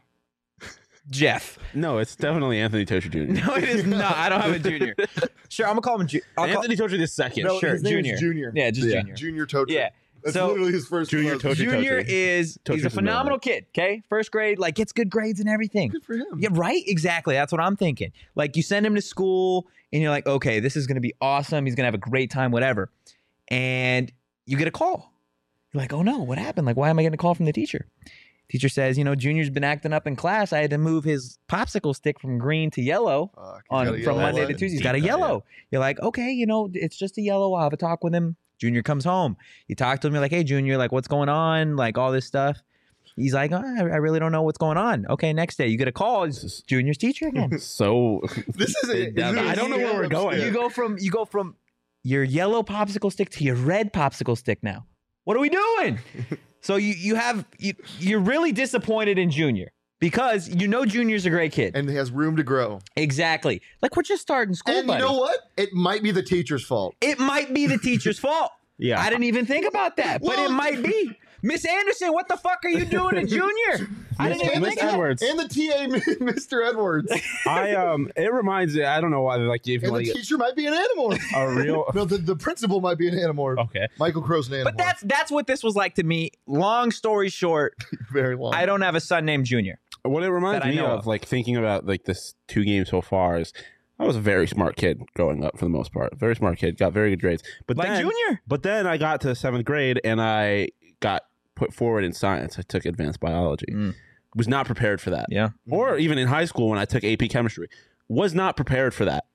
Jeff. No, it's definitely Anthony Totri Jr. No, it is not. I don't have a junior. Sure, I'm gonna call him. Anthony Totri the second. No, sure, his name Junior. is Junior. Yeah, just Yeah. Junior. Junior Totri. Yeah. That's So, literally his first Junior cousin. Totri. Junior is he's Totri's a phenomenal kid. Okay, first grade, like gets good grades and everything. Good for him. Yeah, right. Exactly. That's what I'm thinking. Like you send him to school, and you're like, okay, this is gonna be awesome. He's gonna have a great time, whatever. And you get a call. You're like, oh no, what happened? Like, why am I getting a call from the teacher? Teacher says, Junior's been acting up in class. I had to move his popsicle stick from green to yellow from Monday to Tuesday. He's got a yellow. You're like, okay, it's just a yellow. I'll have a talk with him. Junior comes home. You talk to him. You're like, hey, Junior, like, what's going on? Like, all this stuff. He's like, I really don't know what's going on. Okay, next day you get a call. It's Junior's teacher again. So This is I don't know where we're going. You go from your yellow popsicle stick to your red popsicle stick now. What are we doing? So you're really disappointed in Junior because Junior's a great kid. And he has room to grow. Exactly. Like we're just starting school, And buddy. you know what? It might be the teacher's fault. It might be the teacher's fault. Yeah. I didn't even think about that, but it might be. Miss Anderson, what the fuck are you doing to Junior? I didn't even Miss think of that. Edwards. And the TA, Mr. Edwards. It reminds me. I don't know why. Like if you And want the to get teacher might be an animal. a real. No, the principal might be an animal. Okay. Michael Crow's an animal. But that's what this was like to me. Long story short, very long. I don't have a son named Junior. What it reminds that I me know of, of. like thinking about like this 2 games so far, is I was a very smart kid growing up for the most part. Very smart kid, got very good grades. But Like then, Junior. But then I got to 7th grade and I got put forward in science. I took advanced biology. Was not prepared for that. Yeah. Or even in high school when I took AP chemistry, was not prepared for that.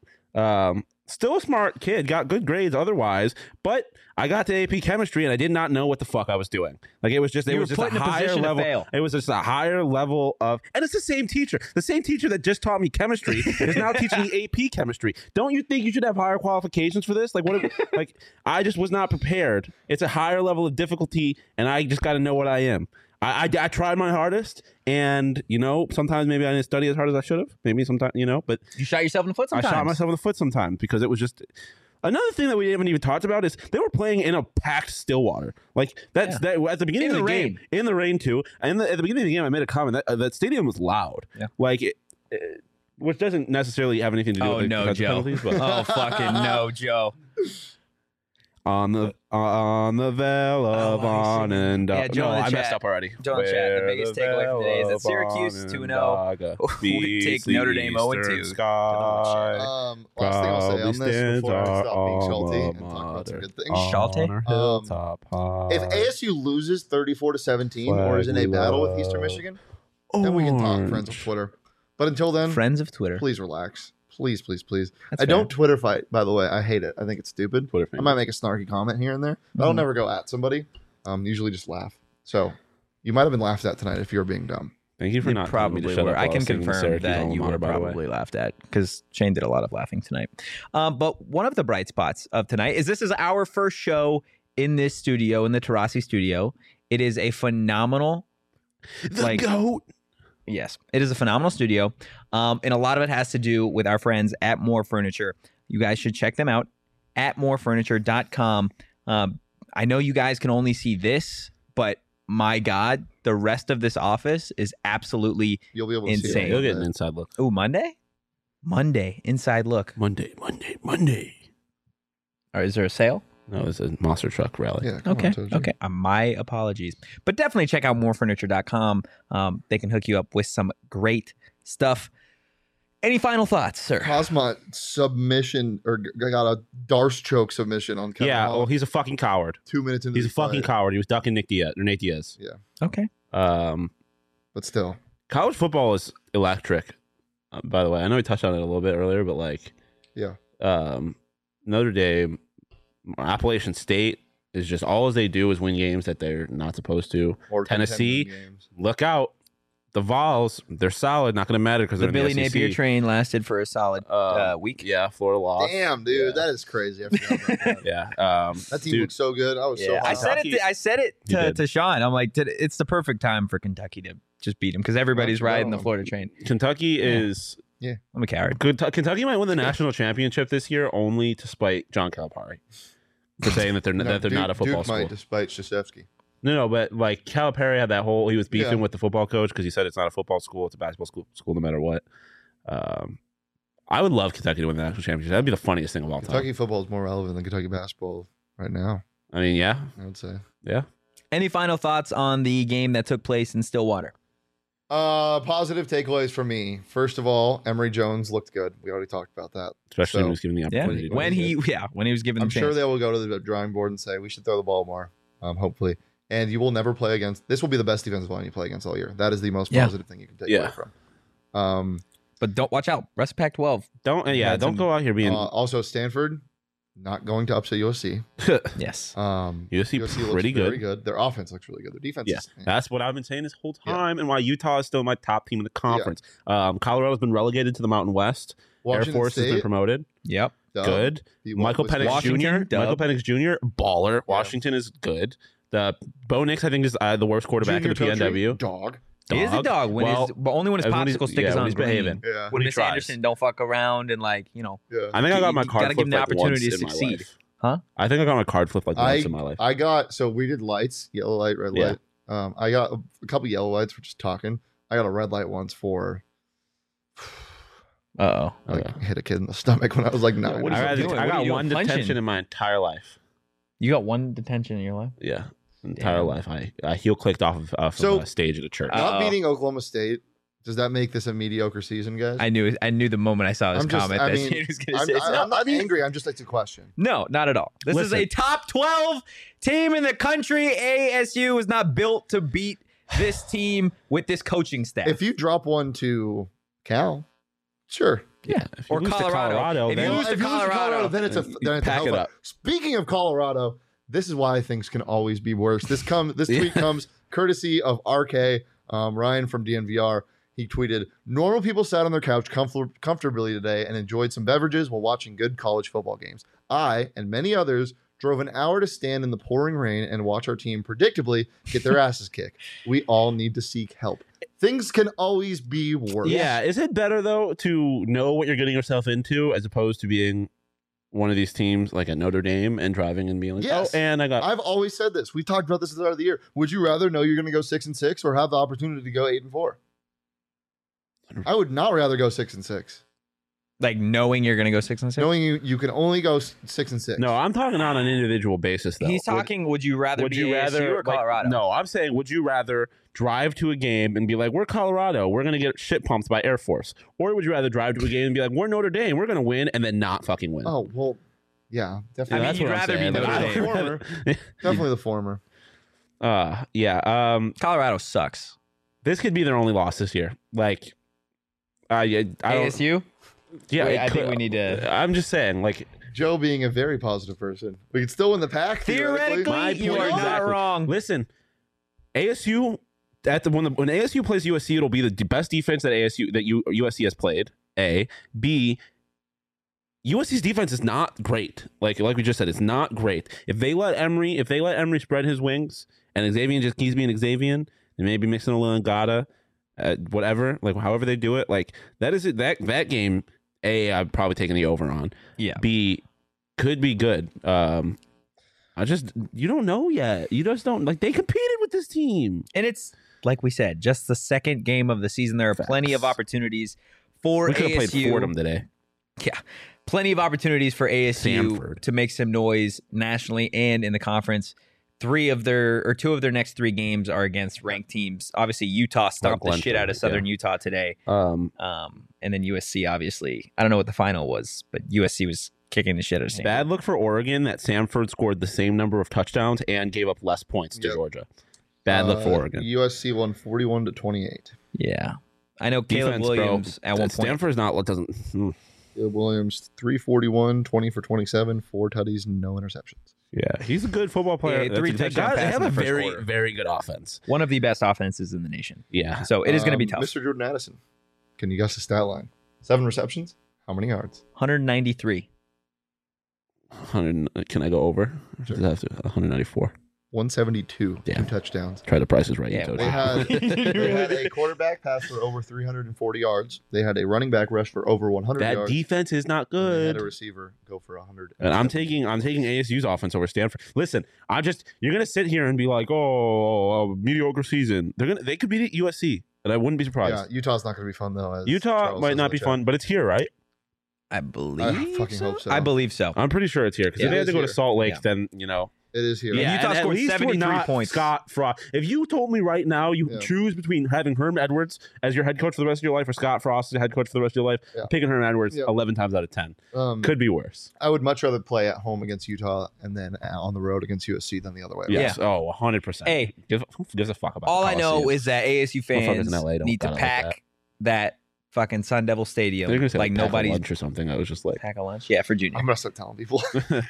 Still a smart kid, got good grades otherwise, but I got to AP chemistry and I did not know what the fuck I was doing. Like it was just You were a put in a higher position to level. fail. It was just a higher level of, and it's the same teacher that just taught me chemistry is now teaching me AP chemistry. Don't you think you should have higher qualifications for this? Like what? Like I just was not prepared. It's a higher level of difficulty, and I just got to know what I am. I tried my hardest, and sometimes maybe I didn't study as hard as I should have. Maybe sometimes but You shot yourself in the foot sometimes. I shot myself in the foot sometimes because it was just. Another thing that we haven't even talked about is they were playing in a packed Stillwater. Like that at the beginning In of the the game, rain. in the rain too. And at the beginning of the game, I made a comment that stadium was loud. Yeah. Like which doesn't necessarily have anything to do Oh with no, defensive Joe. penalties, but Oh fucking no, Joe. on the veil of on and Yeah, Joe no, in the I messed chat. up already. Joe in the chat, the biggest takeaway from today is that Syracuse 2-0 would take Notre Dame 0-2. Sky. Last thing I'll say on this stands before I our stop being salty alma and talk about some mater. good things. Schalte? On our hilltop high. If ASU loses 34-17 or is in a battle with Eastern Michigan, then we can talk, friends of Twitter. But until then, Friends of Twitter. please relax. Please, please, please. That's I fair. don't Twitter fight, by the way. I hate it. I think it's stupid. Twitter I might make a snarky comment here and there, but I'll never go at somebody. Usually just laugh. So you might have been laughed at tonight if you were being dumb. Thank you for You not telling me to probably shut were. up I while can singing the confirm Syracuse that alma you mater, were by the way. probably laughed at because Shane did a lot of laughing tonight. But one of the bright spots of tonight is this is our first show in this studio, in the Tarasi studio. It is a phenomenal, GOAT. yes, it is a phenomenal studio. And a lot of it has to do with our friends at More Furniture. You guys should check them out at morefurniture.com. I know you guys can only see this, but my God, the rest of this office is absolutely You'll be able to see insane. it. You'll get an inside look. Ooh, Monday, inside look. Monday. Or is there a sale? No, it's a monster truck rally. Yeah. come on, Okay. Toji. Okay. My apologies. But definitely check out morefurniture.com. They can hook you up with some great stuff. Any final thoughts, sir? Cosmot submission or got a Darce choke submission on Kevin Yeah, Holland well, he's a fucking coward. 2 minutes into He's a the fucking fight. coward. He was ducking Nate Diaz. Okay. But still, College football is electric. By the way, I know we touched on it a little bit earlier, but like, yeah. Notre Dame, Appalachian State is just all they do is win games that they're not supposed to. Or Tennessee, 10 games. Look out. The Vols, they're solid. Not going to matter because The they're Billy in the SEC. Napier train lasted for a solid week. Yeah, Florida lost. Damn, dude, Yeah. that is crazy. I forgot about that. Yeah. That team dude, looked so good. I was so Yeah, I hot. said it. I said it You did. to Sean. I'm like, it's the perfect time for Kentucky to just beat him because everybody's Let's riding go. the Florida train. Kentucky is I'm a coward. Kentucky might win the national championship this year only to spite John Calipari for saying that they're No, that they're not a football Duke school. might, despite Krzyzewski. No, but like Calipari had that whole he was beefing Yeah. with the football coach because he said it's not a football school, it's a basketball school no matter what. I would love Kentucky to win the national championship. That'd be the funniest thing of all time. Kentucky football is more relevant than Kentucky basketball right now, I mean, yeah, I would say. yeah. Any final thoughts on the game that took place in Stillwater? Positive takeaways for me. First of all, Emory Jones looked good. We already talked about that. Especially So, when he was given the Yeah, opportunity. to when win. he was given I'm the sure chance. they will go to the drawing board and say we should throw the ball more. Hopefully, and you will never play against. This will be the best defensive line you play against all year. That is the most Yeah. positive thing you can take Yeah. away from. But don't watch out. Rest of Pac-12. Don't Had don't some- go out here being Also, Stanford not going to upset USC. Yes. USC looks pretty very good. good. Their offense looks really good. Their defense, Yeah, is, that's what I've been saying this whole Yeah. time, and why Utah is still my top team in the conference. Colorado's been relegated to the Mountain West. Washington Air Force has been State, promoted. Yep. Good. beat Michael Wisconsin. Penix Washington, Jr. dub. Michael Penix Jr. Baller. Washington is good. The Bo Nix, I think, is the worst quarterback Junior in the PNW. Coaching, dog. He is a dog when Well, but only when his when he's- popsicle stick yeah, is when on he's green. behaving. Yeah, When he Miss tries. Anderson don't fuck around and like, yeah. I think I got my You card gotta give flipped him the like opportunity once to in my succeed. life. Huh? I think I got my card flipped like once in my life. I got so we did lights, yellow light, red Yeah. light. I got a couple yellow lights for just talking. I got a red light once for Uh-oh. Okay. hit a kid in the stomach when I was like 9. What is I it doing? What are got you one doing? Punching? detention in my entire life. You got one detention in your life? Yeah, entire Damn. life. I heel clicked off of So- a stage at a church. Not Uh-oh. beating Oklahoma State. Does that make this a mediocre season, guys? I knew the moment I saw his I'm just- comment I that mean, he was going to I'm, say something. I'm not angry. I'm just like to question. No, not at all. This is Listen. a top 12 team in the country. ASU is not built to beat this team with this coaching staff. If you drop one to Cal, sure. Yeah, if you Or lose to Colorado. If then- you lose to If you Colorado, then it's a pack it hellfire. up. Speaking of Colorado, this is why things can always be worse. This tweet comes courtesy of RK Ryan from DNVR. He tweeted, "Normal people sat on their couch comfortably today and enjoyed some beverages while watching good college football games. I and many others drove an hour to stand in the pouring rain and watch our team predictably get their asses kicked. We all need to seek help. Things can always be worse." Yeah, is it better though to know what you're getting yourself into as opposed to being one of these teams like a Notre Dame and driving and being like, Yes. oh, and I got I've always said this. We talked about this at the start of the year. Would you rather know you're going to go 6-6 or have the opportunity to go 8-4? I would not rather go 6-6, like knowing you're going to go 6-6. knowing you can only go 6-6. No, I'm talking on an individual basis though. He's talking. Would you rather be ASU or Colorado? Like, no, I'm saying, would you rather drive to a game and be like, we're Colorado, we're gonna get shit pumped by Air Force, or would you rather drive to a game and be like, we're Notre Dame, we're gonna win, and then not fucking win? Oh well, yeah, I definitely. mean, that's you'd what I'm rather be saying. Notre Like, Dame. Former. Definitely the former. Yeah. Colorado sucks. This could be their only loss this year. Like, I don't. ASU. Yeah, Wait, it I think could- we need to. I'm just saying, like, Joe being a very positive person, we could still win the pack. Theoretically, My you point are not exactly. wrong. listen, ASU when ASU plays USC, it'll be the best defense that USC has played. A, B. USC's defense is not great. Like we just said, it's not great. If they let Emory spread his wings and Xavier just keeps being Xavier, and maybe mixing a little Ngata, whatever, like however they do it, like that is it. That game, A, I've probably taken the over on. Yeah. B, could be good. You don't know yet. You just don't like. They competed with this team, And it's like we said, just the second game of the season. There are plenty of opportunities for we could have ASU. played Fordham today. Yeah, plenty of opportunities for ASU Samford. to make some noise nationally and in the conference. Two of their next 3 games are against ranked teams. Obviously, Utah stomped the shit out of Southern Utah today. And then USC, obviously, I don't know what the final was, but USC was kicking the shit out of Stanford. Bad look for Oregon that Samford scored the same number of touchdowns and gave up less points to Georgia. Bad look for Oregon. USC won 41-28. Yeah, I know Caleb Defense, Williams bro. at one point. Stanford's not doesn't. Caleb Williams 341, 20 for 27, 4 tutties, no interceptions. Yeah, he's a good football player. Yeah, 3 touchdown They passes have in a the first very, quarter. very good offense. One of the best offenses in the nation. Yeah. So it is going to be tough. Mr. Jordan Addison, can you guess the stat line? 7 receptions. How many yards? 193. 100. Can I go over? Sure. Does it have to 194? 172. Damn. 2 touchdowns. Try the prices right. Yeah, you told They you. had a quarterback pass for over 340 yards. They had a running back rush for over 100 That yards. defense is not and they had good. a receiver go for 100. And I'm taking ASU's offense over Stanford. Listen, you're gonna sit here and be like, oh, mediocre season. They could beat USC, and I wouldn't be surprised. Yeah, Utah's not going to be fun though. As Utah Charles might says not in be the fun, chat. but it's here, right? I believe fucking hope so. I believe so. I'm pretty sure it's here because Yeah, if they it had to is go to here. Salt Lake, Yeah. then It is here. Yeah. Utah and at scored least we're 73 not points. Scott Frost. If you told me right now you Yeah. choose between having Herm Edwards as your head coach for the rest of your life or Scott Frost as your head coach for the rest of your life, Yeah. picking Herm Edwards Yeah. 11 times out of 10 Um, could be worse. I would much rather play at home against Utah and then on the road against USC than the other way. around. Yes. Oh, 100%. Hey. who gives a fuck about All the I know Coliseum? is that ASU Motherfuckers fans in LA don't need to gotta like pack that fucking Sun Devil Stadium They're gonna say like pack a nobody's lunch or something. I was just like, pack a lunch. Yeah, for Junior. I'm gonna start telling people.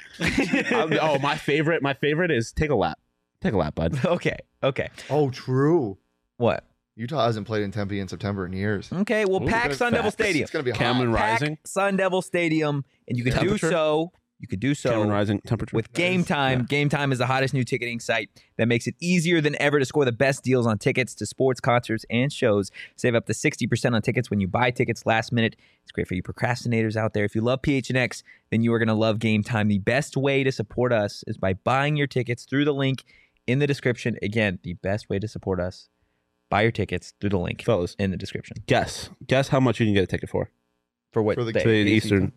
my favorite is take a lap. Take a lap, bud. Okay. Oh, true. What? Utah hasn't played in Tempe in September in years. Okay, well, Ooh, pack good Sun Devil facts. Stadium. It's gonna be hot. Cameron Rising. Pack Sun Devil Stadium, and you could do Temperature? so. You could do so Cameron Rising temperature. with Game Time. Yeah. Game Time is the hottest new ticketing site that makes it easier than ever to score the best deals on tickets to sports, concerts, and shows. Save up to 60% on tickets when you buy tickets last minute. It's great for you procrastinators out there. If you love PHNX, then you are going to love Game Time. The best way to support us is by buying your tickets through the link in the description. Again, the best way to support us, buy your tickets through the link Fellas, in the description. guess how much you can get a ticket for. For what For the day? The Eastern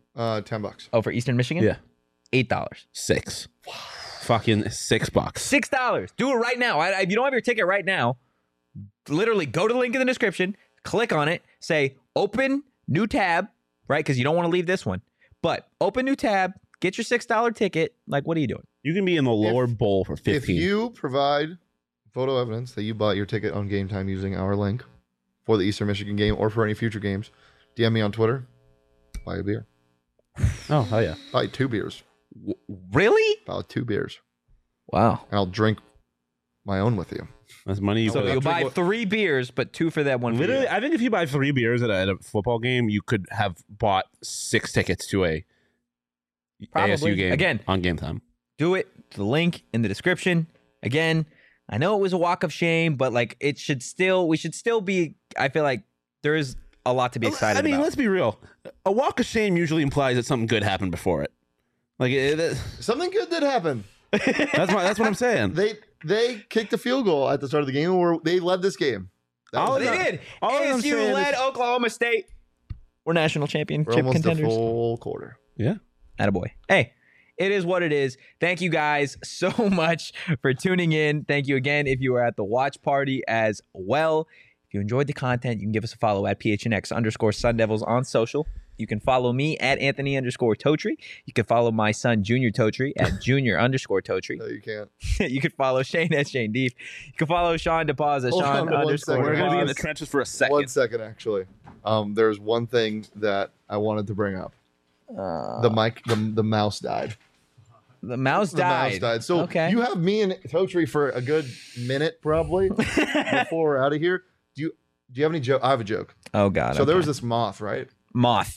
$10. Oh, for Eastern Michigan? Yeah. $8. 6. Fucking $6. $6. Do it right now. If you don't have your ticket right now, literally go to the link in the description, click on it, say open new tab, right? Because you don't want to leave this one. But open new tab, get your $6 ticket. Like, what are you doing? You can be in the lower bowl for 15. If you provide photo evidence that you bought your ticket on Game Time using our link for the Eastern Michigan game or for any future games, DM me on Twitter. Buy a beer. Oh, hell yeah. Buy 2 beers. Really? Buy 2 beers. Wow. And I'll drink my own with you. That's money you So could you'll buy drink 3 beers, but 2 for that one. for Literally, you. I think if you buy 3 beers at a football game, you could have bought 6 tickets to a Probably. ASU game Again. on Game Time. Do it. The link in the description. Again, I know it was a walk of shame, but like we should still be, I feel like there is a lot to be excited I mean, about. let's be real. A walk of shame usually implies that something good happened before it. Like Something good did happen. that's what I'm saying. They kicked a field goal at the start of the game where they led this game. That All was They that- enough. did. all I'm ASU saying led is- Oklahoma State. We're national We're championship almost a contenders. full quarter. Yeah. Attaboy. Hey, it is what it is. Thank you guys so much for tuning in. Thank you again if you were at the watch party as well. If you enjoyed the content, you can give us a follow at PHNX_Sun Devils on social. You can follow me at Anthony_Totri. You can follow my son, Junior Totri, at Junior_Totri. No, you can't. You can follow Shane at Shane Deep. You can follow Sean DePaz at Hold on Sean one _. second. We're going to be in the DePaz. trenches for a second. 1 second, actually. There's one thing that I wanted to bring up. The mouse died. The mouse The died. mouse died. So okay. you have me and Totri for a good minute probably before we're out of here. Do you have any joke? I have a joke. Oh God. So there okay. was this moth, right? moth.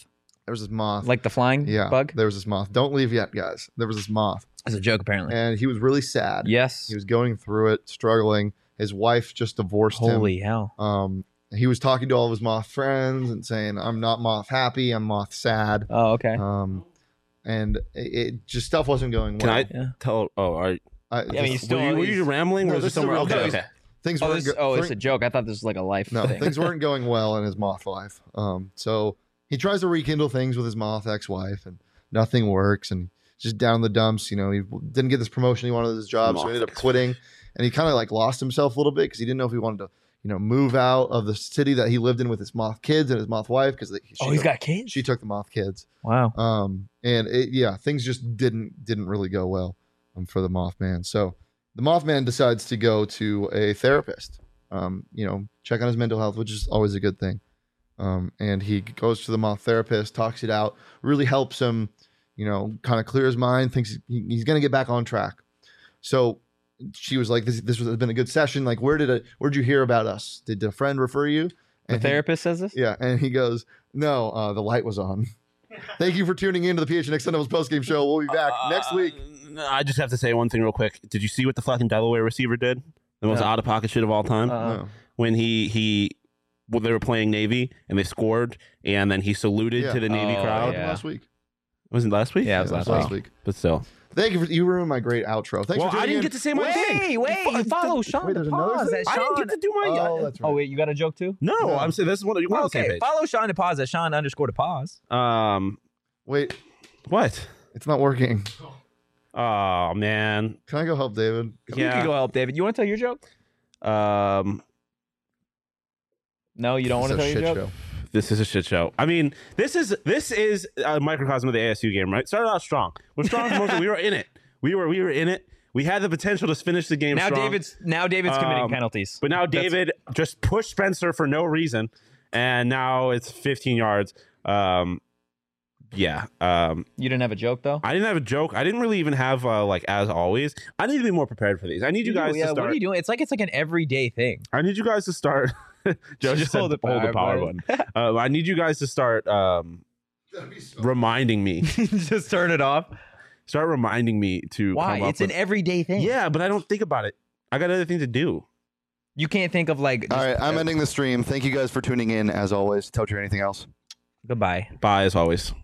There was this moth. Like the flying bug? There was this moth. Don't leave yet, guys. There was this moth. It's a joke, apparently. And he was really sad. Yes. He was going through it, struggling. His wife just divorced him. Holy hell. He was talking to all of his moth friends and saying, I'm not moth happy, I'm moth sad. Oh, okay. And it just stuff wasn't going well. Can I tell? Oh, are you still were you rambling? No, or was it this is a somewhere? real Okay, case. okay. Things Oh, weren't it's a joke. I thought this was like a life No, thing. things weren't going well in his moth life. So he tries to rekindle things with his moth ex-wife, and nothing works. And just down in the dumps. You know, he didn't get this promotion he wanted at his job, so he ended up quitting. And he kind of like lost himself a little bit because he didn't know if he wanted to, you know, move out of the city that he lived in with his moth kids and his moth wife because he's got kids. She took the moth kids. Wow. And things just didn't really go well for the Mothman. So the Mothman decides to go to a therapist. You know, check on his mental health, which is always a good thing. And he goes to the moth therapist, talks it out, really helps him, you know, kind of clear his mind, thinks he's going to get back on track. So she was like, this has been a good session. Like, where'd you hear about us? Did a friend refer you? And the therapist says this? Yeah. And he goes, no, the light was on. Thank you for tuning in to the PHNX Sun Devils postgame show. We'll be back next week. I just have to say one thing real quick. Did you see what the fucking Delaware receiver did? The most out of pocket shit of all time. No. When they were playing Navy and they scored, and then he saluted to the Navy crowd. Yeah. Last week. Was it last week? Yeah, it was last week. But still. Thank you you ruined my great outro. Thanks for tuning I didn't in. get to say my thing. Wait, you follow Sean. Wait, there's another Pause thing? at I Sean. didn't get to do my. Oh, that's right. Oh, wait, you got a joke too? No, I'm saying this is what you're on the same Okay, page. follow Sean to pause at Sean _to pause. Wait, What? it's not working. Oh man. Can I go help David? You can go help David. You want to tell your joke? No, you don't want to tell It's a your shit joke? show. This is a shit show. I mean, this is a microcosm of the ASU game, right? Started out strong. We're strong. We were in it. We were in it. We had the potential to finish the game Now strong. David's committing penalties. But now David just pushed Spencer for no reason, and now it's 15 yards. You didn't have a joke though? I didn't have a joke. I didn't really even have as always. I need to be more prepared for these. I need you guys to start. What are you doing? It's like an everyday thing. I need you guys to start. Joe just said hold the power button. I need you guys to start reminding me. Just turn it off. Start reminding me to. Why? Come up It's an everyday thing. Yeah, but I don't think about it. I got other things to do. You can't think of like. All right, I'm ending the stream. Thank you guys for tuning in. As always, Toad, anything else? Goodbye. Bye as always.